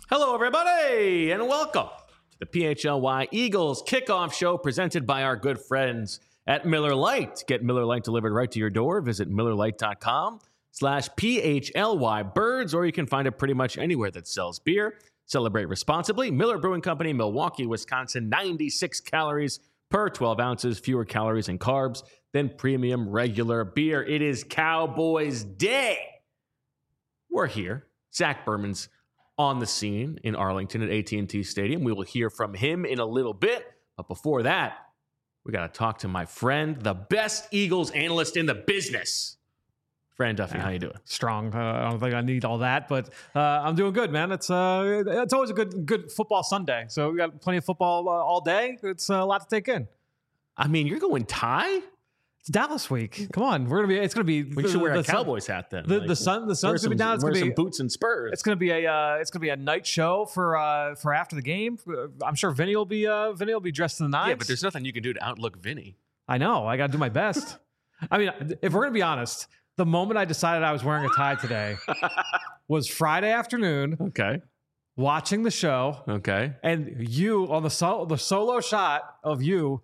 Hello, everybody, and welcome to the PHLY Eagles kickoff show presented by our good friends at Miller Lite. Get Miller Lite delivered right to your door. Visit MillerLite.com/PHLY Birds, or you can find it pretty much anywhere that sells beer. Celebrate responsibly. Miller Brewing Company, Milwaukee, Wisconsin, 96 calories per 12 ounces, fewer calories and carbs than premium regular beer. It is Cowboys Day. We're here. Zach Berman's on the scene in Arlington at AT&T Stadium. We will hear from him in a little bit. But before that, we got to talk to my friend, the best Eagles analyst in the business. Fran Duffy, how you doing? Strong. I don't think I need all that, but I'm doing good, man. It's always a good football Sunday. So we got plenty of football all day. It's a lot to take in. I mean, you're going tie? It's Dallas week. Come on, it's gonna be. We should wear a Cowboys hat then. The sun's gonna be down. It's wear gonna be some boots and spurs. It's gonna be a night show for after the game. I'm sure Vinny will be dressed to the nines. Yeah, but there's nothing you can do to outlook Vinny. I know. I got to do my best. I mean, if we're gonna be honest, the moment I decided I was wearing a tie today was Friday afternoon. Okay. Watching the show. Okay. And you on the solo shot of you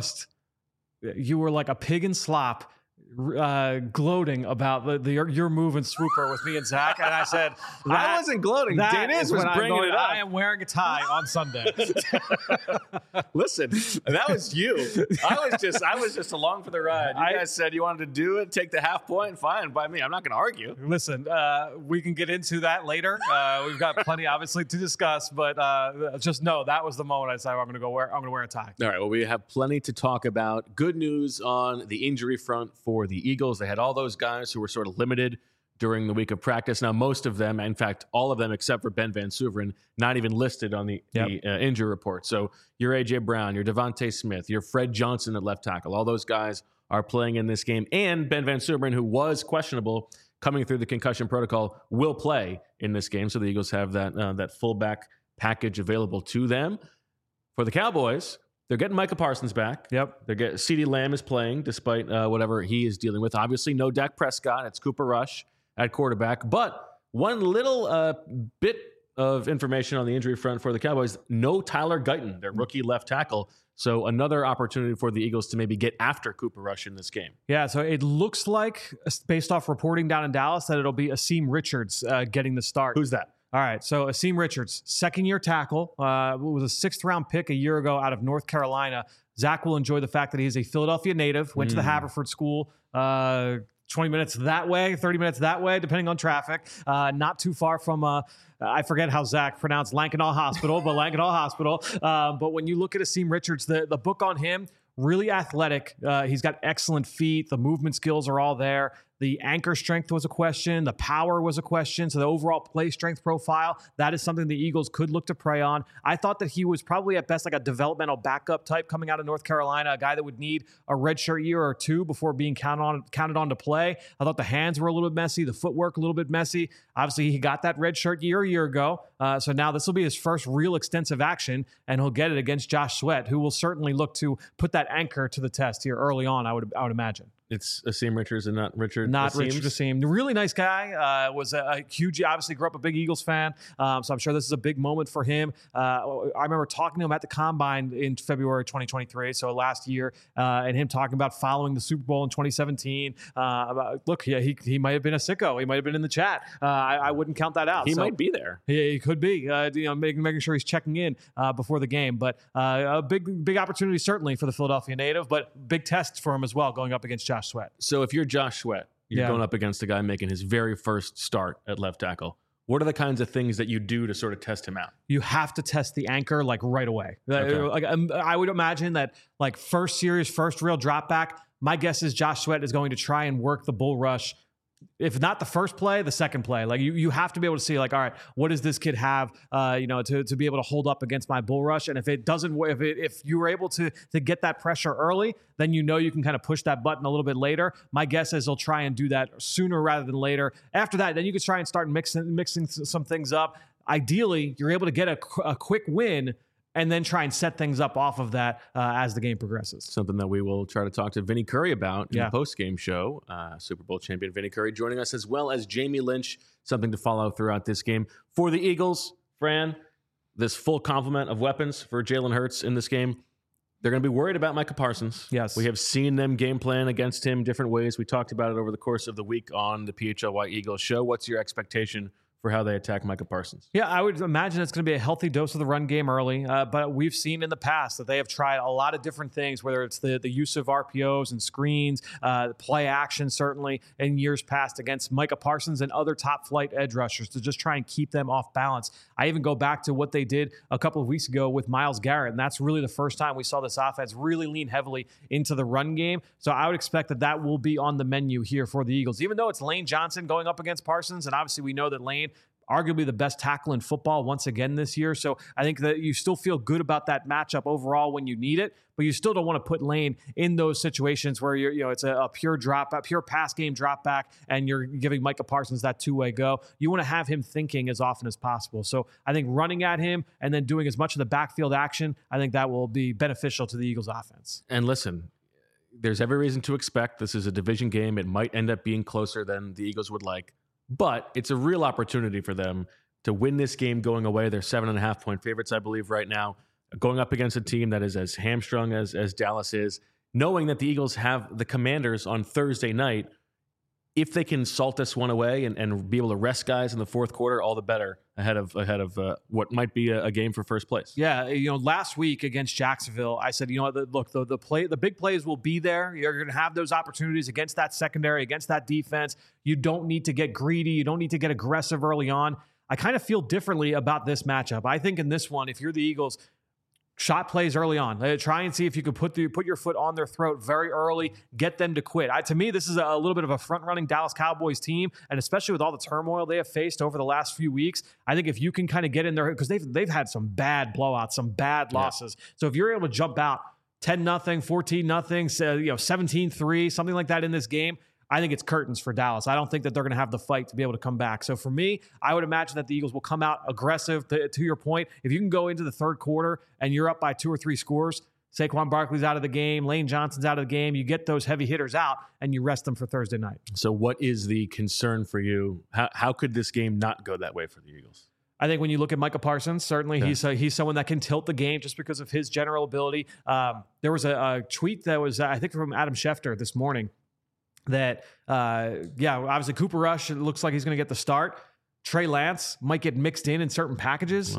you were like a pig in slop, gloating about your move and swooper with me and Zach. And I said, I wasn't gloating. Dennis was bringing it up. I am wearing a tie on Sunday. Listen, that was you. I was just along for the ride. You guys said you wanted to do it, take the half point. Fine by me. I'm not going to argue. Listen, we can get into that later. We've got plenty, obviously, to discuss. But just know that was the moment I decided I'm going to wear a tie. All right. Well, we have plenty to talk about. Good news on the injury front for the Eagles. They had all those guys who were sort of limited during the week of practice. Now, most of them, in fact, all of them except for Ben Van Suveren, not even listed on the injury report. So your A.J. Brown, your Devontae Smith, your Fred Johnson at left tackle, all those guys are playing in this game. And Ben Van Suveren, who was questionable coming through the concussion protocol, will play in this game. So the Eagles have that fullback package available to them. For the Cowboys, they're getting Micah Parsons back. Yep. CeeDee Lamb is playing despite whatever he is dealing with. Obviously, no Dak Prescott. It's Cooper Rush at quarterback. But one little bit of information on the injury front for the Cowboys, no Tyler Guyton, their rookie left tackle. So another opportunity for the Eagles to maybe get after Cooper Rush in this game. Yeah, so it looks like, based off reporting down in Dallas, that it'll be Asim Richards getting the start. Who's that? All right, so Asim Richards, second-year tackle, was a sixth-round pick a year ago out of North Carolina. Zach will enjoy the fact that he's a Philadelphia native, went to the Haverford School, 20 minutes that way, 30 minutes that way, depending on traffic. Not too far from, I forget how Zach pronounced Lankenau Hospital, but Lankenau Hospital. But when you look at Asim Richards, the book on him, really athletic. He's got excellent feet. The movement skills are all there. The anchor strength was a question. The power was a question. So the overall play strength profile, that is something the Eagles could look to prey on. I thought that he was probably at best like a developmental backup type coming out of North Carolina, a guy that would need a redshirt year or two before being counted on to play. I thought the hands were a little bit messy, the footwork a little bit messy. Obviously, he got that redshirt year a year ago. So now this will be his first real extensive action, and he'll get it against Josh Sweat, who will certainly look to put that anchor to the test here early on, I would imagine. It's Asim Richards and not Richard. Not Richard Asim. Really nice guy. Was a huge, obviously grew up a big Eagles fan. So I'm sure this is a big moment for him. I remember talking to him at the Combine in February 2023, so last year, and him talking about following the Super Bowl in 2017. Look, yeah, he might have been a sicko. He might have been in the chat. I wouldn't count that out. He might be there. He could be. Making sure he's checking in before the game. But a big opportunity certainly for the Philadelphia native, but big test for him as well going up against Josh Sweat. So if you're Josh Sweat, you're going up against a guy making his very first start at left tackle. What are the kinds of things that you do to sort of test him out? You have to test the anchor like right away. Okay. I would imagine that like first series, first real drop back, my guess is Josh Sweat is going to try and work the bull rush. If not the first play, the second play. Like you have to be able to see like, all right, what does this kid have, to be able to hold up against my bull rush? And if it doesn't, if you were able to get that pressure early, then you can kind of push that button a little bit later. My guess is they'll try and do that sooner rather than later. After that, then you can try and start mixing some things up. Ideally, you're able to get a quick win and then try and set things up off of that as the game progresses. Something that we will try to talk to Vinny Curry about in the post-game show. Super Bowl champion Vinny Curry joining us, as well as Jamie Lynch, something to follow throughout this game. For the Eagles, Fran, this full complement of weapons for Jalen Hurts in this game, they're going to be worried about Micah Parsons. Yes. We have seen them game plan against him different ways. We talked about it over the course of the week on the PHLY Eagles show. What's your expectation for how they attack Micah Parsons? Yeah, I would imagine it's going to be a healthy dose of the run game early, but we've seen in the past that they have tried a lot of different things, whether it's the use of RPOs and screens, play action certainly in years past against Micah Parsons and other top flight edge rushers to just try and keep them off balance. I even go back to what they did a couple of weeks ago with Myles Garrett, and that's really the first time we saw this offense really lean heavily into the run game. So I would expect that will be on the menu here for the Eagles, even though it's Lane Johnson going up against Parsons, and obviously we know that Lane arguably the best tackle in football once again this year. So I think that you still feel good about that matchup overall when you need it, but you still don't want to put Lane in those situations where it's a pure pass game drop back, and you're giving Micah Parsons that two-way go. You want to have him thinking as often as possible. So I think running at him and then doing as much of the backfield action, I think that will be beneficial to the Eagles offense. And listen, there's every reason to expect this is a division game. It might end up being closer than the Eagles would like. But it's a real opportunity for them to win this game going away. They're 7.5-point favorites, I believe, right now, going up against a team that is as hamstrung as Dallas is, knowing that the Eagles have the Commanders on Thursday night. If they can salt this one away and be able to rest guys in the fourth quarter, all the better ahead of what might be a game for first place. Yeah, last week against Jacksonville, I said, look, the big plays will be there. You're going to have those opportunities against that secondary, against that defense. You don't need to get greedy. You don't need to get aggressive early on. I kind of feel differently about this matchup. I think in this one, if you're the Eagles, shot plays early on. Try and see if you could put your foot on their throat very early, get them to quit. To me, this is a little bit of a front-running Dallas Cowboys team, and especially with all the turmoil they have faced over the llast few weeks, I think if you can kind of get in there, because they've had some bad blowouts, some bad losses. So if you're able to jump out 10-0, 14-0, 17-3, something like that in this game, I think it's curtains for Dallas. I don't think that they're going to have the fight to be able to come back. So for me, I would imagine that the Eagles will come out aggressive. To your point, if you can go into the third quarter and you're up by 2 or 3 scores, Saquon Barkley's out of the game, Lane Johnson's out of the game, you get those heavy hitters out and you rest them for Thursday night. So what is the concern for you? How could this game not go that way for the Eagles? I think when you look at Micah Parsons, certainly he's someone that can tilt the game just because of his general ability. There was a tweet that was, I think, from Adam Schefter this morning that, obviously Cooper Rush, it looks like he's going to get the start. Trey Lance might get mixed in certain packages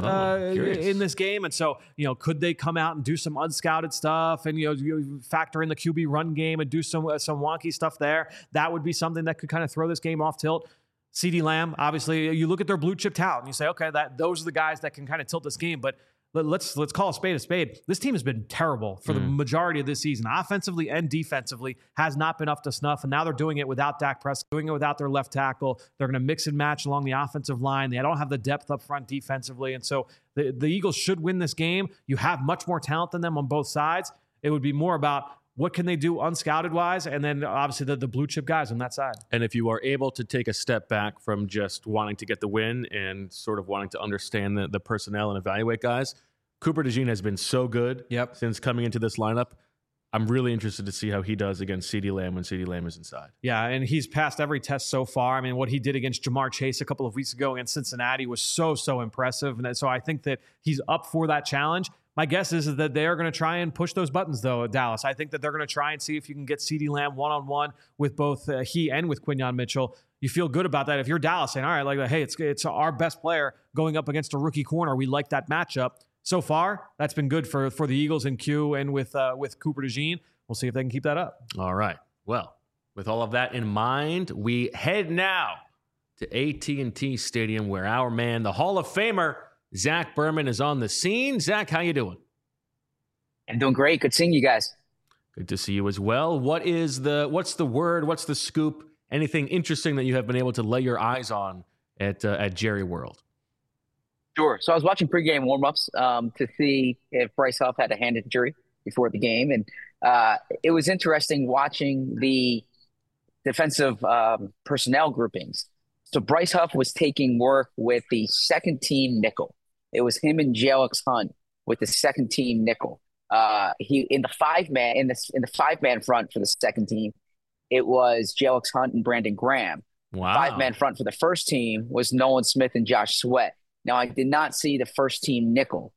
in this game. And so, could they come out and do some unscouted stuff and, you factor in the QB run game and do some wonky stuff there? That would be something that could kind of throw this game off tilt. CeeDee Lamb, obviously, you look at their blue chip talent and you say, okay, those are the guys that can kind of tilt this game. But let's call a spade a spade. This team has been terrible for the majority of this season, offensively and defensively, has not been up to snuff. And now they're doing it without Dak Prescott, doing it without their left tackle. They're going to mix and match along the offensive line. They don't have the depth up front defensively. And so the Eagles should win this game. You have much more talent than them on both sides. It would be more about what can they do unscouted wise, and then obviously the blue chip guys on that side. And if you are able to take a step back from just wanting to get the win and sort of wanting to understand the personnel and evaluate guys, Cooper DeJean has been so good since coming into this lineup. I'm really interested to see how he does against CeeDee Lamb when CeeDee Lamb is inside. Yeah, and he's passed every test so far. I mean, what he did against Jamar Chase a couple of weeks ago against Cincinnati was so impressive. And so I think that he's up for that challenge. My guess is that they are going to try and push those buttons, though, Dallas. I think that they're going to try and see if you can get CeeDee Lamb one-on-one with both he and with Quinyon Mitchell. You feel good about that. If you're Dallas saying, all right, like, hey, it's our best player going up against a rookie corner. We like that matchup. So far, that's been good for the Eagles in Q and with Cooper DeJean. We'll see if they can keep that up. All right. Well, with all of that in mind, we head now to AT&T Stadium where our man, the Hall of Famer, Zach Berman, is on the scene. Zach, how you doing? I'm doing great. Good seeing you guys. Good to see you as well. What's the word? What's the scoop? Anything interesting that you have been able to lay your eyes on at Jerry World? Sure. So I was watching pregame warmups to see if Bryce Huff had a hand injury before the game. And it was interesting watching the defensive personnel groupings. So Bryce Huff was taking work with the second team nickel. It was him and Jalix Hunt with the second team nickel. He in the five man front for the second team, it was Jalix Hunt and Brandon Graham. Wow. 5-man front for the first team was Nolan Smith and Josh Sweat. Now, I did not see the first team nickel.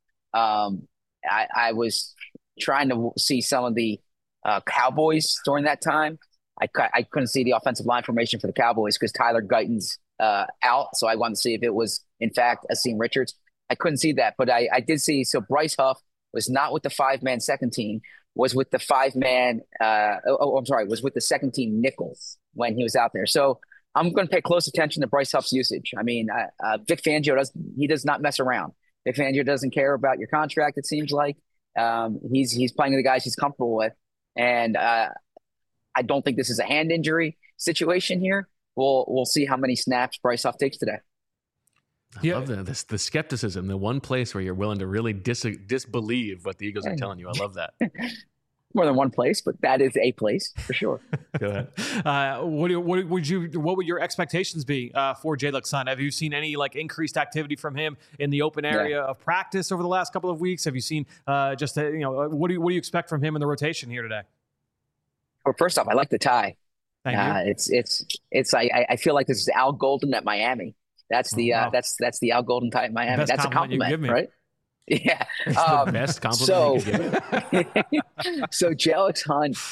I was trying to see some of the Cowboys during that time. I couldn't see the offensive line formation for the Cowboys because Tyler Guyton's out. So I wanted to see if it was, in fact, Asim Richards. I couldn't see that, but I did see. So Bryce Huff was not with the 5-man second team, was with the 5-man. I'm sorry, was with the second team nickel when he was out there. So I'm going to pay close attention to Bryce Huff's usage. I mean, Vic Fangio does not mess around. Vic Fangio doesn't care about your contract. It seems like he's playing the guys he's comfortable with, and I don't think this is a hand injury situation here. We'll see how many snaps Bryce Huff takes today. I love that. The skepticism, the one place where you're willing to really disbelieve what the Eagles are telling you. I love that. More than one place, but that is a place for sure. Go ahead. What would your expectations be for Jalen Sun? Have you seen any increased activity from him in the open area of practice over the last couple of weeks? Have you seen what do you expect from him in the rotation here today? Well, first off, I like the tie. Thank you. It's I feel like this is Al Golden at Miami. That's the that's the Al Golden tie at Miami. That's a compliment, right? Yeah. The best compliment you could give. So Jalen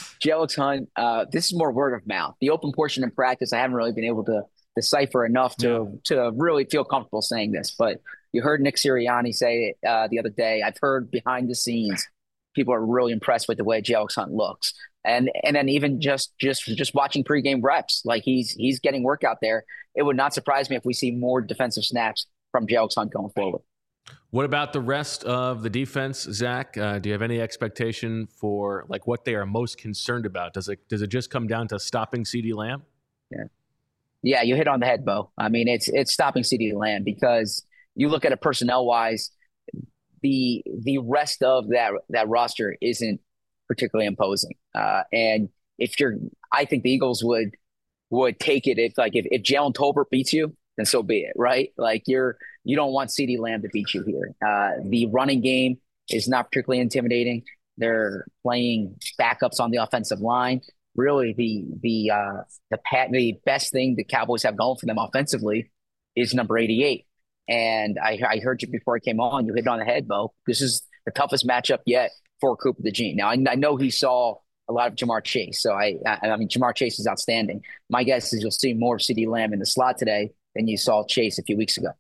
Hunt, this is more word of mouth. The open portion in practice, I haven't really been able to decipher enough to really feel comfortable saying this. But you heard Nick Sirianni say it the other day. I've heard behind the scenes, people are really impressed with the way Jalen Hunt looks. And then even just watching pregame reps, like he's getting work out there. It would not surprise me if we see more defensive snaps from Jalen Hunt going forward. What about the rest of the defense, Zach? Do you have any expectation for what they are most concerned about? Does it just come down to stopping CeeDee Lamb? Yeah, you hit on the head, Bo. I mean, it's stopping CeeDee Lamb because you look at it personnel wise, the rest of that roster isn't particularly imposing. And I think the Eagles would take it if Jalen Tolbert beats you, then so be it, right? You don't want CeeDee Lamb to beat you here. The running game is not particularly intimidating. They're playing backups on the offensive line. Really, the best thing the Cowboys have going for them offensively is number 88. And I heard you before I came on. You hit it on the head, Bo. This is the toughest matchup yet for Cooper DeJean. Now, I know he saw a lot of Jamar Chase. So, I mean, Jamar Chase is outstanding. My guess is you'll see more of CeeDee Lamb in the slot today than you saw Chase a few weeks ago.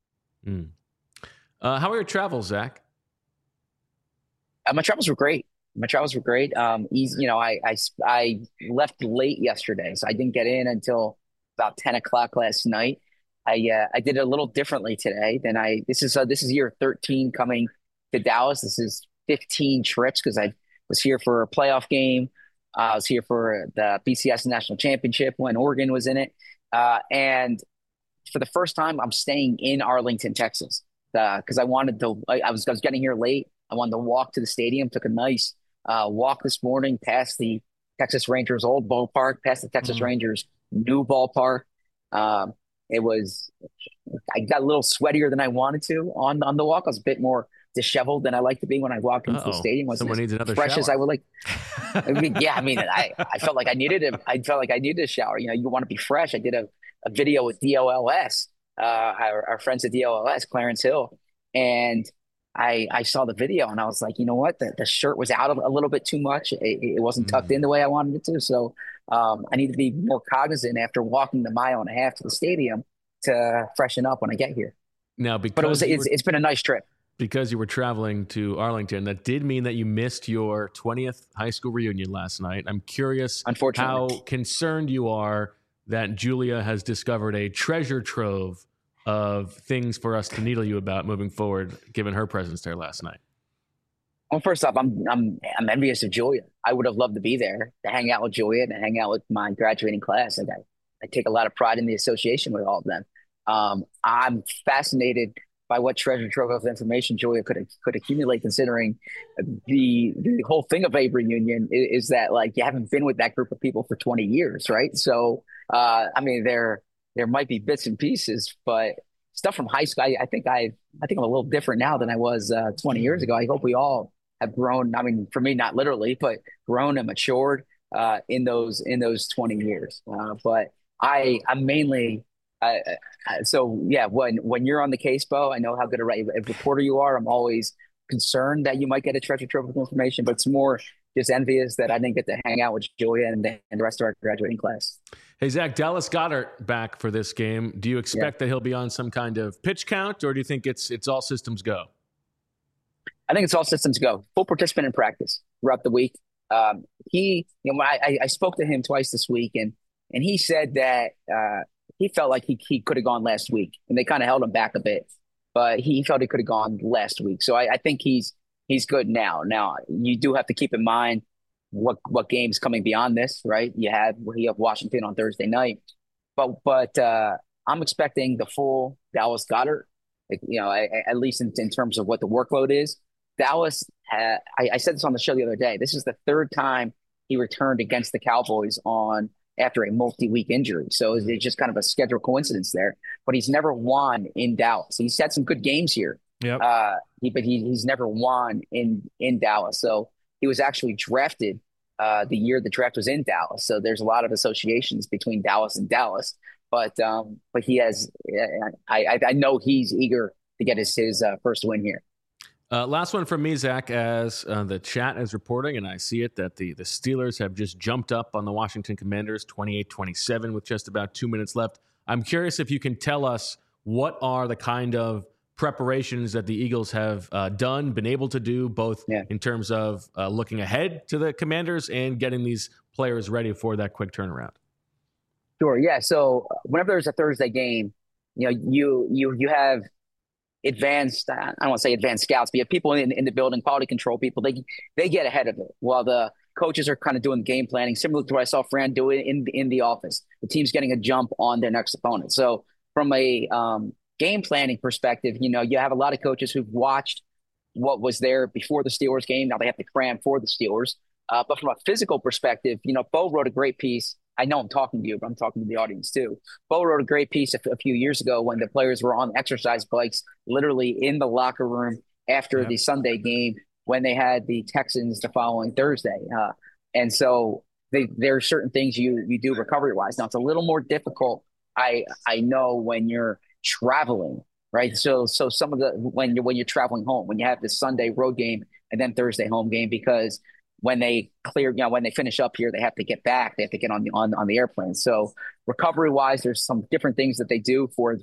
How are your travels, Zach? My travels were great. Easy, I left late yesterday, so I didn't get in until about 10 o'clock last night. I did it a little differently today than this is year 13 coming to Dallas. This is 15 trips because I was here for a playoff game. I was here for the BCS National Championship when Oregon was in it. And for the first time, I'm staying in Arlington, Texas, because I was getting here late. I wanted to walk to the stadium, took a nice walk this morning past the Texas Rangers old ballpark, past the Texas Rangers new ballpark. I got a little sweatier than I wanted to on the walk. I was a bit more disheveled than I like to be when I walk into the stadium. Someone needs another fresh shower. As I would like. I felt like I needed a shower. You want to be fresh. I did a video with DOLS, our friends at DOLS, Clarence Hill, and I saw the video and I was like, you know what, the shirt was out a little bit too much. It wasn't tucked in the way I wanted it to. So I need to be more cognizant after walking the 1.5 miles to the stadium to freshen up when I get here. Now, it's been a nice trip. Because you were traveling to Arlington, that did mean that you missed your 20th high school reunion last night. I'm curious how concerned you are that Julia has discovered a treasure trove of things for us to needle you about moving forward, given her presence there last night. Well, first off, I'm envious of Julia. I would have loved to be there to hang out with Julia and to hang out with my graduating class. I take a lot of pride in the association with all of them. I'm fascinated by what treasure trove of information Julia could accumulate, considering the whole thing of a reunion is that you haven't been with that group of people for 20 years, right? So, I mean, there might be bits and pieces, but stuff from high school, I think I'm a little different now than I was 20 years ago. I hope we all have grown. I mean, for me, not literally, but grown and matured in those 20 years. But I'm mainly So yeah, when you're on the case, Bo, I know how good a reporter you are. I'm always concerned that you might get a treasure trove of information, but it's more just envious that I didn't get to hang out with Julia and the rest of our graduating class. Hey, Zach, Dallas Goedert back for this game. Do you expect that he'll be on some kind of pitch count, or do you think it's all systems go? I think it's all systems go. Full participant in practice throughout the week. I spoke to him twice this week, and he said that he felt like he could have gone last week, and they kind of held him back a bit, but he felt he could have gone last week. So I think he's good now. Now you do have to keep in mind what games coming beyond this, right? You have Washington on Thursday night, but I'm expecting the full Dallas Goedert. At least in terms of what the workload is. Dallas, I said this on the show the other day. This is the third time he returned against the Cowboys after a multi-week injury. So it's just kind of a schedule coincidence there. But he's never won in Dallas. He's had some good games here. Yep. But he's never won in Dallas. So he was actually drafted the year the draft was in Dallas. So there's a lot of associations between Dallas and Dallas. But he has. I know he's eager to get his first win here. Last one from me, Zach, as the chat is reporting, and I see it, that the Steelers have just jumped up on the Washington Commanders 28-27 with just about 2 minutes left. I'm curious if you can tell us what are the kind of preparations that the Eagles have been able to do, both in terms of looking ahead to the Commanders and getting these players ready for that quick turnaround. Sure. Yeah. So whenever there's a Thursday game, you have advanced, I don't want to say advanced scouts, but you have people in the building, quality control people. They get ahead of it while the coaches are kind of doing game planning, similar to what I saw Fran do in the office. The team's getting a jump on their next opponent. So from a game planning perspective, you have a lot of coaches who've watched what was there before the Steelers game. Now they have to cram for the Steelers. But from a physical perspective, Bo wrote a great piece. I know I'm talking to you, but I'm talking to the audience too. Bo wrote a great piece a few years ago when the players were on exercise bikes, literally in the locker room after the Sunday game when they had the Texans the following Thursday. And so there are certain things you do recovery-wise. Now, it's a little more difficult, I know, when you're traveling, right? So some of when you're traveling home, when you have this Sunday road game and then Thursday home game, because when they when they finish up here, they have to get back. They have to get on the airplane. So recovery wise, there's some different things that they do for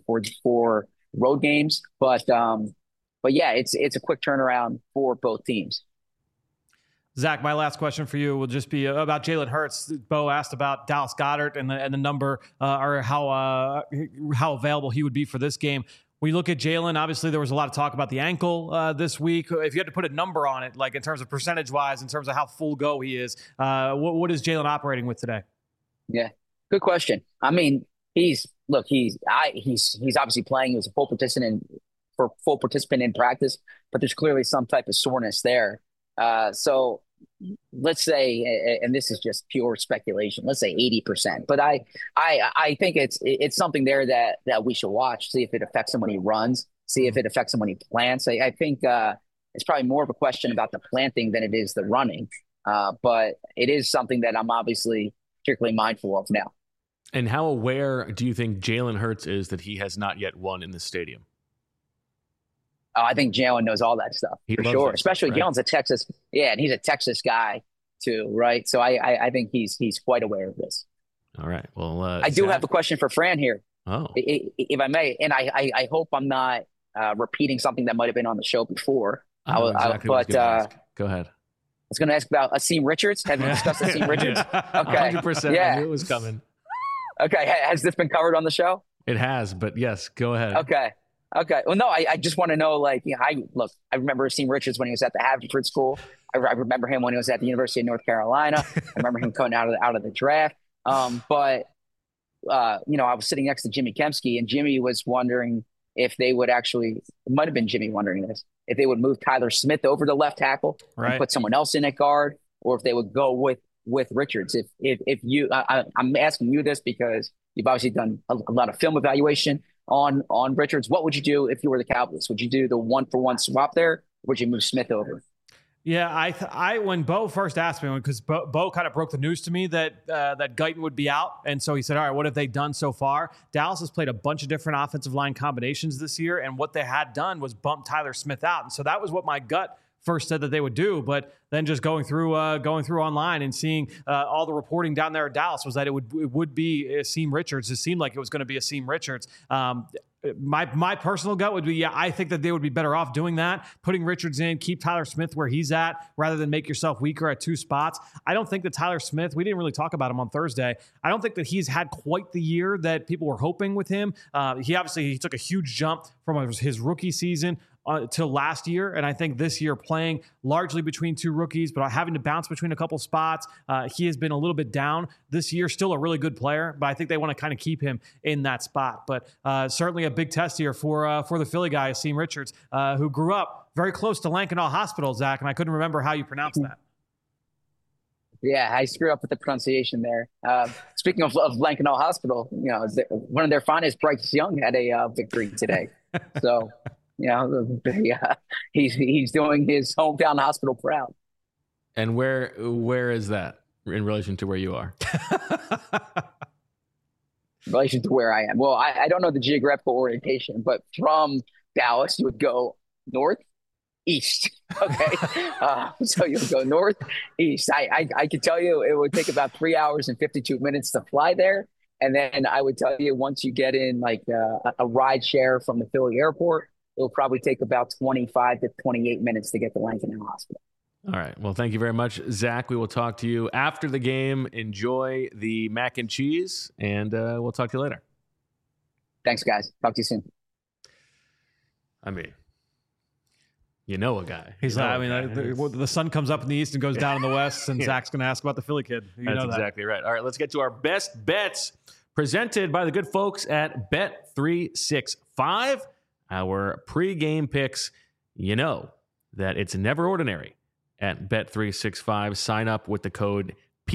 road games. But yeah, it's a quick turnaround for both teams. Zach, my last question for you will just be about Jalen Hurts. Bo asked about Dallas Goedert and the number or how available he would be for this game. When you look at Jalen, obviously there was a lot of talk about the ankle this week. If you had to put a number on it, like in terms of percentage-wise, in terms of how full go he is, what is Jalen operating with today? Yeah, good question. I mean, he's obviously playing. He was a full participant in practice, but there's clearly some type of soreness there. So let's say, and this is just pure speculation, let's say 80%. But I think it's something there that we should watch, see if it affects him when he runs, see if it affects him when he plants. I think it's probably more of a question about the planting than it is the running. But it is something that I'm obviously particularly mindful of now. And how aware do you think Jalen Hurts is that he has not yet won in the stadium? I think Jalen knows all that stuff for sure. Especially stuff, right? Jalen's a Texas, and he's a Texas guy too, right? So I think he's quite aware of this. All right. Well, I do have a question for Fran here, if I may, and I hope I'm not repeating something that might have been on the show before. Go ahead. I was going to ask about Asim Richards. Have you discussed Asim Richards? Okay, 100%. Yeah. I knew it was coming. Okay, has this been covered on the show? It has, but yes, go ahead. Okay. Well, no, I just want to know, I remember Asim Richards when he was at the Haverford School. I remember him when he was at the University of North Carolina. I remember him coming out of the draft. But I was sitting next to Jimmy Kempski, and Jimmy was wondering if they would it might have been Jimmy wondering this, if they would move Tyler Smith over to left tackle and put someone else in at guard, or if they would go with Richards. If you, I'm asking you this because you've obviously done a lot of film evaluation on Richards. What would you do if you were the Cowboys? Would you do the 1-for-1 swap there? Or would you move Smith over? Yeah, I when Bo first asked me, because Bo kind of broke the news to me that that Guyton would be out, and so he said, "All right, what have they done so far?" Dallas has played a bunch of different offensive line combinations this year, and what they had done was bump Tyler Smith out, and so that was what my gut first said that they would do. But then just going through online and seeing all the reporting down there at Dallas was that it would be Asim Richards. It seemed like it was going to be Asim Richards. My personal gut would be, yeah, I think that they would be better off doing that, putting Richards in, keep Tyler Smith where he's at, rather than make yourself weaker at two spots. I don't think that Tyler Smith, we didn't really talk about him on Thursday. I don't think that he's had quite the year that people were hoping with him. He took a huge jump from his rookie season to last year, and I think this year playing largely between two rookies, but having to bounce between a couple spots, he has been a little bit down this year. Still a really good player, but I think they want to kind of keep him in that spot. But certainly a big test here for the Philly guy, Asim Richards, who grew up very close to Lankenau Hospital, Zach, and I couldn't remember how you pronounce that. Yeah, I screwed up with the pronunciation there. Speaking of Lankenau Hospital, one of their finest, Bryce Young, had a victory today. So. He's doing his hometown hospital proud. And where is that in relation to where you are? In relation to where I am. Well, I don't know the geographical orientation, but from Dallas, you would go northeast. Okay. So you would go northeast. I could tell you it would take about 3 hours and 52 minutes to fly there. And then I would tell you once you get in like a ride share from the Philly airport, it'll probably take about 25 to 28 minutes to get to Lankenau Hospital. All right. Well, thank you very much, Zach. We will talk to you after the game. Enjoy the mac and cheese, and we'll talk to you later. Thanks, guys. Talk to you soon. I mean, you know a guy. He's the sun comes up in the east and goes down in the west, and Zach's going to ask about the Philly kid. That's exactly right. All right, let's get to our best bets presented by the good folks at Bet365. Our pregame picks, you know that it's never ordinary at Bet365. Sign up with the code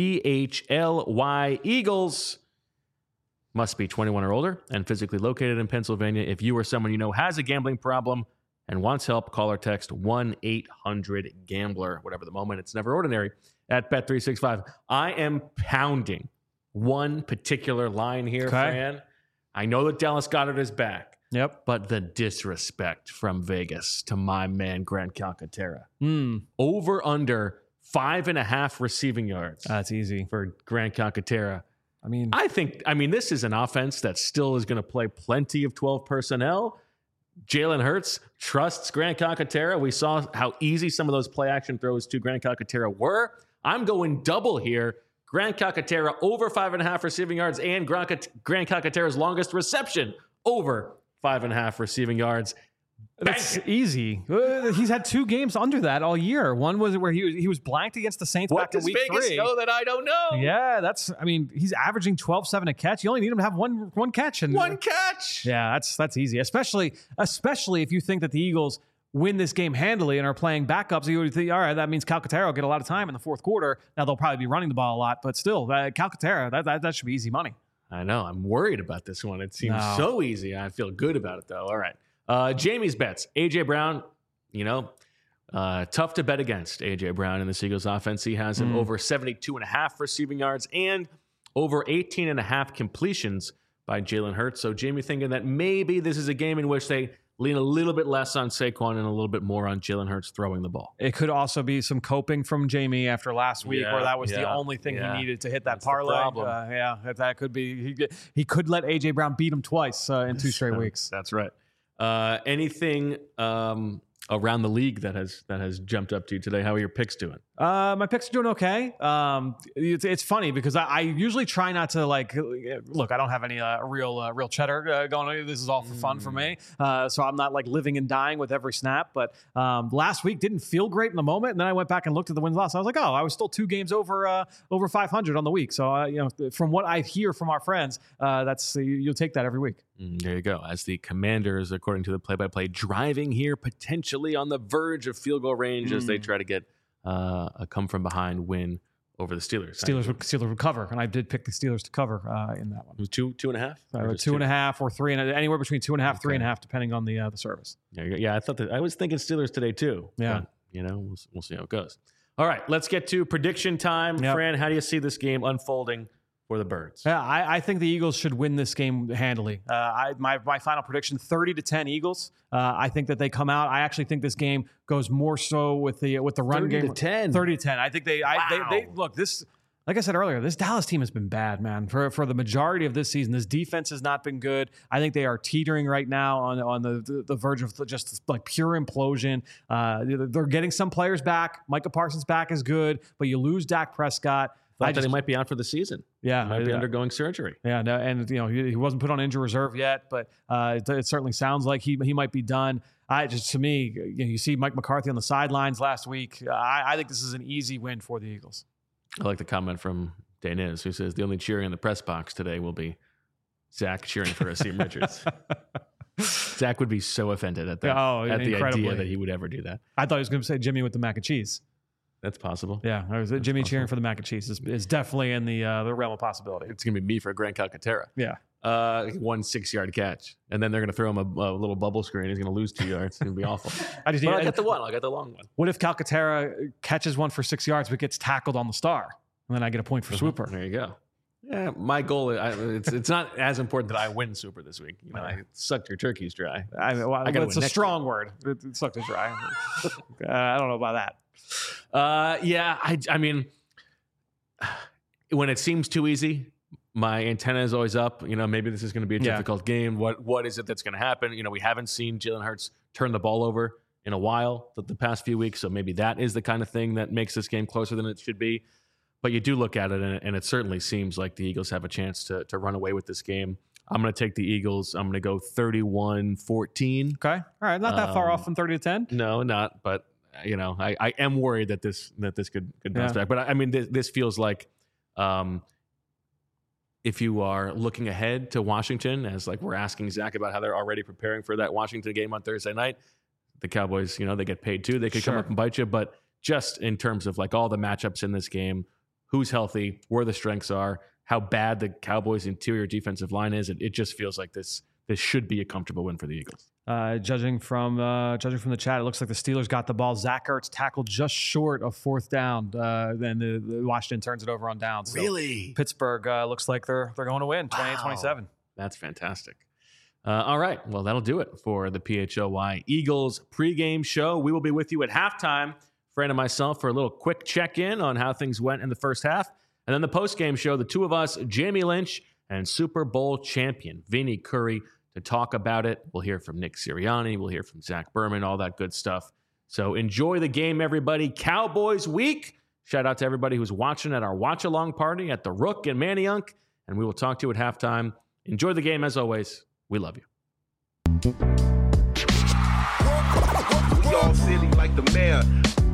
PHLY Eagles. Must be 21 or older and physically located in Pennsylvania. If you or someone you know has a gambling problem and wants help, call or text 1-800-GAMBLER. Whatever the moment, it's never ordinary at Bet365. I am pounding one particular line here, Fran. I know that Dallas Goedert is back. Yep. But the disrespect from Vegas to my man, Grant Calcaterra. Over under 5.5 receiving yards. That's easy. For Grant Calcaterra. I think this is an offense that still is going to play plenty of 12 personnel. Jalen Hurts trusts Grant Calcaterra. We saw how easy some of those play action throws to Grant Calcaterra were. I'm going double here. Grant Calcaterra over 5.5 receiving yards and Grant Calcaterra's longest reception over 5.5 receiving yards. That's easy. He's had 2 games under that all year. One was where he was blanked against the Saints back in week 3. What does Vegas know that I don't know? Yeah, he's averaging 12-7 a catch. You only need him to have one catch. One catch. Yeah, that's easy. Especially if you think that the Eagles win this game handily and are playing backups, you would think, all right, that means Calcaterra will get a lot of time in the fourth quarter. Now they'll probably be running the ball a lot, but still, Calcaterra, that should be easy money. I know. I'm worried about this one. It seems so easy. I feel good about it, though. All right. Jamie's bets. A.J. Brown, tough to bet against A.J. Brown in the Eagles offense. He has him over 72.5 receiving yards and over 18.5 completions by Jalen Hurts. So Jamie thinking that maybe this is a game in which they lean a little bit less on Saquon and a little bit more on Jalen Hurts throwing the ball. It could also be some coping from Jamie after last week, where that was the only thing he needed to hit that parlay. That could be. He could let A.J. Brown beat him twice in 2 straight weeks. That's right. Anything around the league that has jumped up to you today? How are your picks doing? My picks are doing okay. It's funny because I usually try not to look. I don't have any real cheddar going on. This is all for fun for me. So I'm not living and dying with every snap. But last week didn't feel great in the moment, and then I went back and looked at the wins loss. I was like, I was still 2 games over 500 on the week. So from what I hear from our friends, that's you'll take that every week. There you go. As the Commanders, according to the play-by-play, driving here potentially on the verge of field goal range as they try to get a come-from-behind win over the Steelers. Steelers would cover, and I did pick the Steelers to cover in that one. It was 2.5? 2.5 or 3, and anywhere between 2.5, 3.5, depending on the service. Yeah, I was thinking Steelers today too. Yeah. we'll see how it goes. All right, let's get to prediction time. Yep. Fran, how do you see this game unfolding for the Birds? Yeah, I think the Eagles should win this game handily. My final prediction, 30-10 Eagles. I think that they come out. I actually think this game goes more so with the run game. 30-10. 30-10. I think they look, this, like I said earlier, this Dallas team has been bad, man. For the majority of this season, this defense has not been good. I think they are teetering right now on the verge of just like pure implosion. They're getting some players back. Micah Parsons back is good, but you lose Dak Prescott. Thought that he might be out for the season. Yeah, he might be undergoing surgery. Yeah, no, and he wasn't put on injury reserve yet, but it certainly sounds like he might be done. To me, you see Mike McCarthy on the sidelines last week. I think this is an easy win for the Eagles. I like the comment from Daniz, who says the only cheering in the press box today will be Zach cheering for Asim Richards. Zach would be so offended at that. At the idea that he would ever do that. I thought he was going to say Jimmy with the mac and cheese. That's possible. Yeah, Jimmy cheering for the mac and cheese is definitely in the realm of possibility. It's going to be me for Grant Calcaterra. Yeah. 1 6-yard catch. And then they're going to throw him a little bubble screen. He's going to lose 2 yards. It's going to be awful. I got the one. I got the long one. What if Calcaterra catches one for 6 yards but gets tackled on the star? And then I get a point for Swooper. There you go. Yeah, my goal is it's not as important that I win Super this week. I sucked your turkeys dry. It's a strong word. It sucked it dry. I don't know about that. I mean, when it seems too easy, my antenna is always up. Maybe this is going to be a difficult game. What is it that's going to happen? We haven't seen Jalen Hurts turn the ball over in a while the past few weeks, so maybe that is the kind of thing that makes this game closer than it should be. But you do look at it, and it certainly seems like the Eagles have a chance to run away with this game. I'm going to take the Eagles. I'm going to go 31-14. Okay. All right. Not that far off from 30-10. No, not. But, I am worried that this could bounce back. But, I mean, this feels like if you are looking ahead to Washington, as like we're asking Zach about how they're already preparing for that Washington game on Thursday night, the Cowboys, they get paid too. They could come up and bite you. But just in terms of like all the matchups in this game, who's healthy, where the strengths are, how bad the Cowboys' interior defensive line is, it just feels like this should be a comfortable win for the Eagles. Judging from the chat, it looks like the Steelers got the ball. Zach Ertz tackled just short of 4th down. Then the Washington turns it over on downs. So really? Pittsburgh looks like they're going to win 28-27. That's fantastic. All right. Well, that'll do it for the PHLY Eagles pregame show. We will be with you at halftime, Fran and myself, for a little quick check-in on how things went in the first half. And then the postgame show, the two of us, Jamie Lynch and Super Bowl champion Vinny Curry, to talk about it. We'll hear from Nick Sirianni. We'll hear from Zach Berman, all that good stuff. So enjoy the game, everybody. Cowboys week. Shout out to everybody who's watching at our watch-along party at the Rook in Manayunk. And we will talk to you at halftime. Enjoy the game as always. We love you. We all silly like the mayor.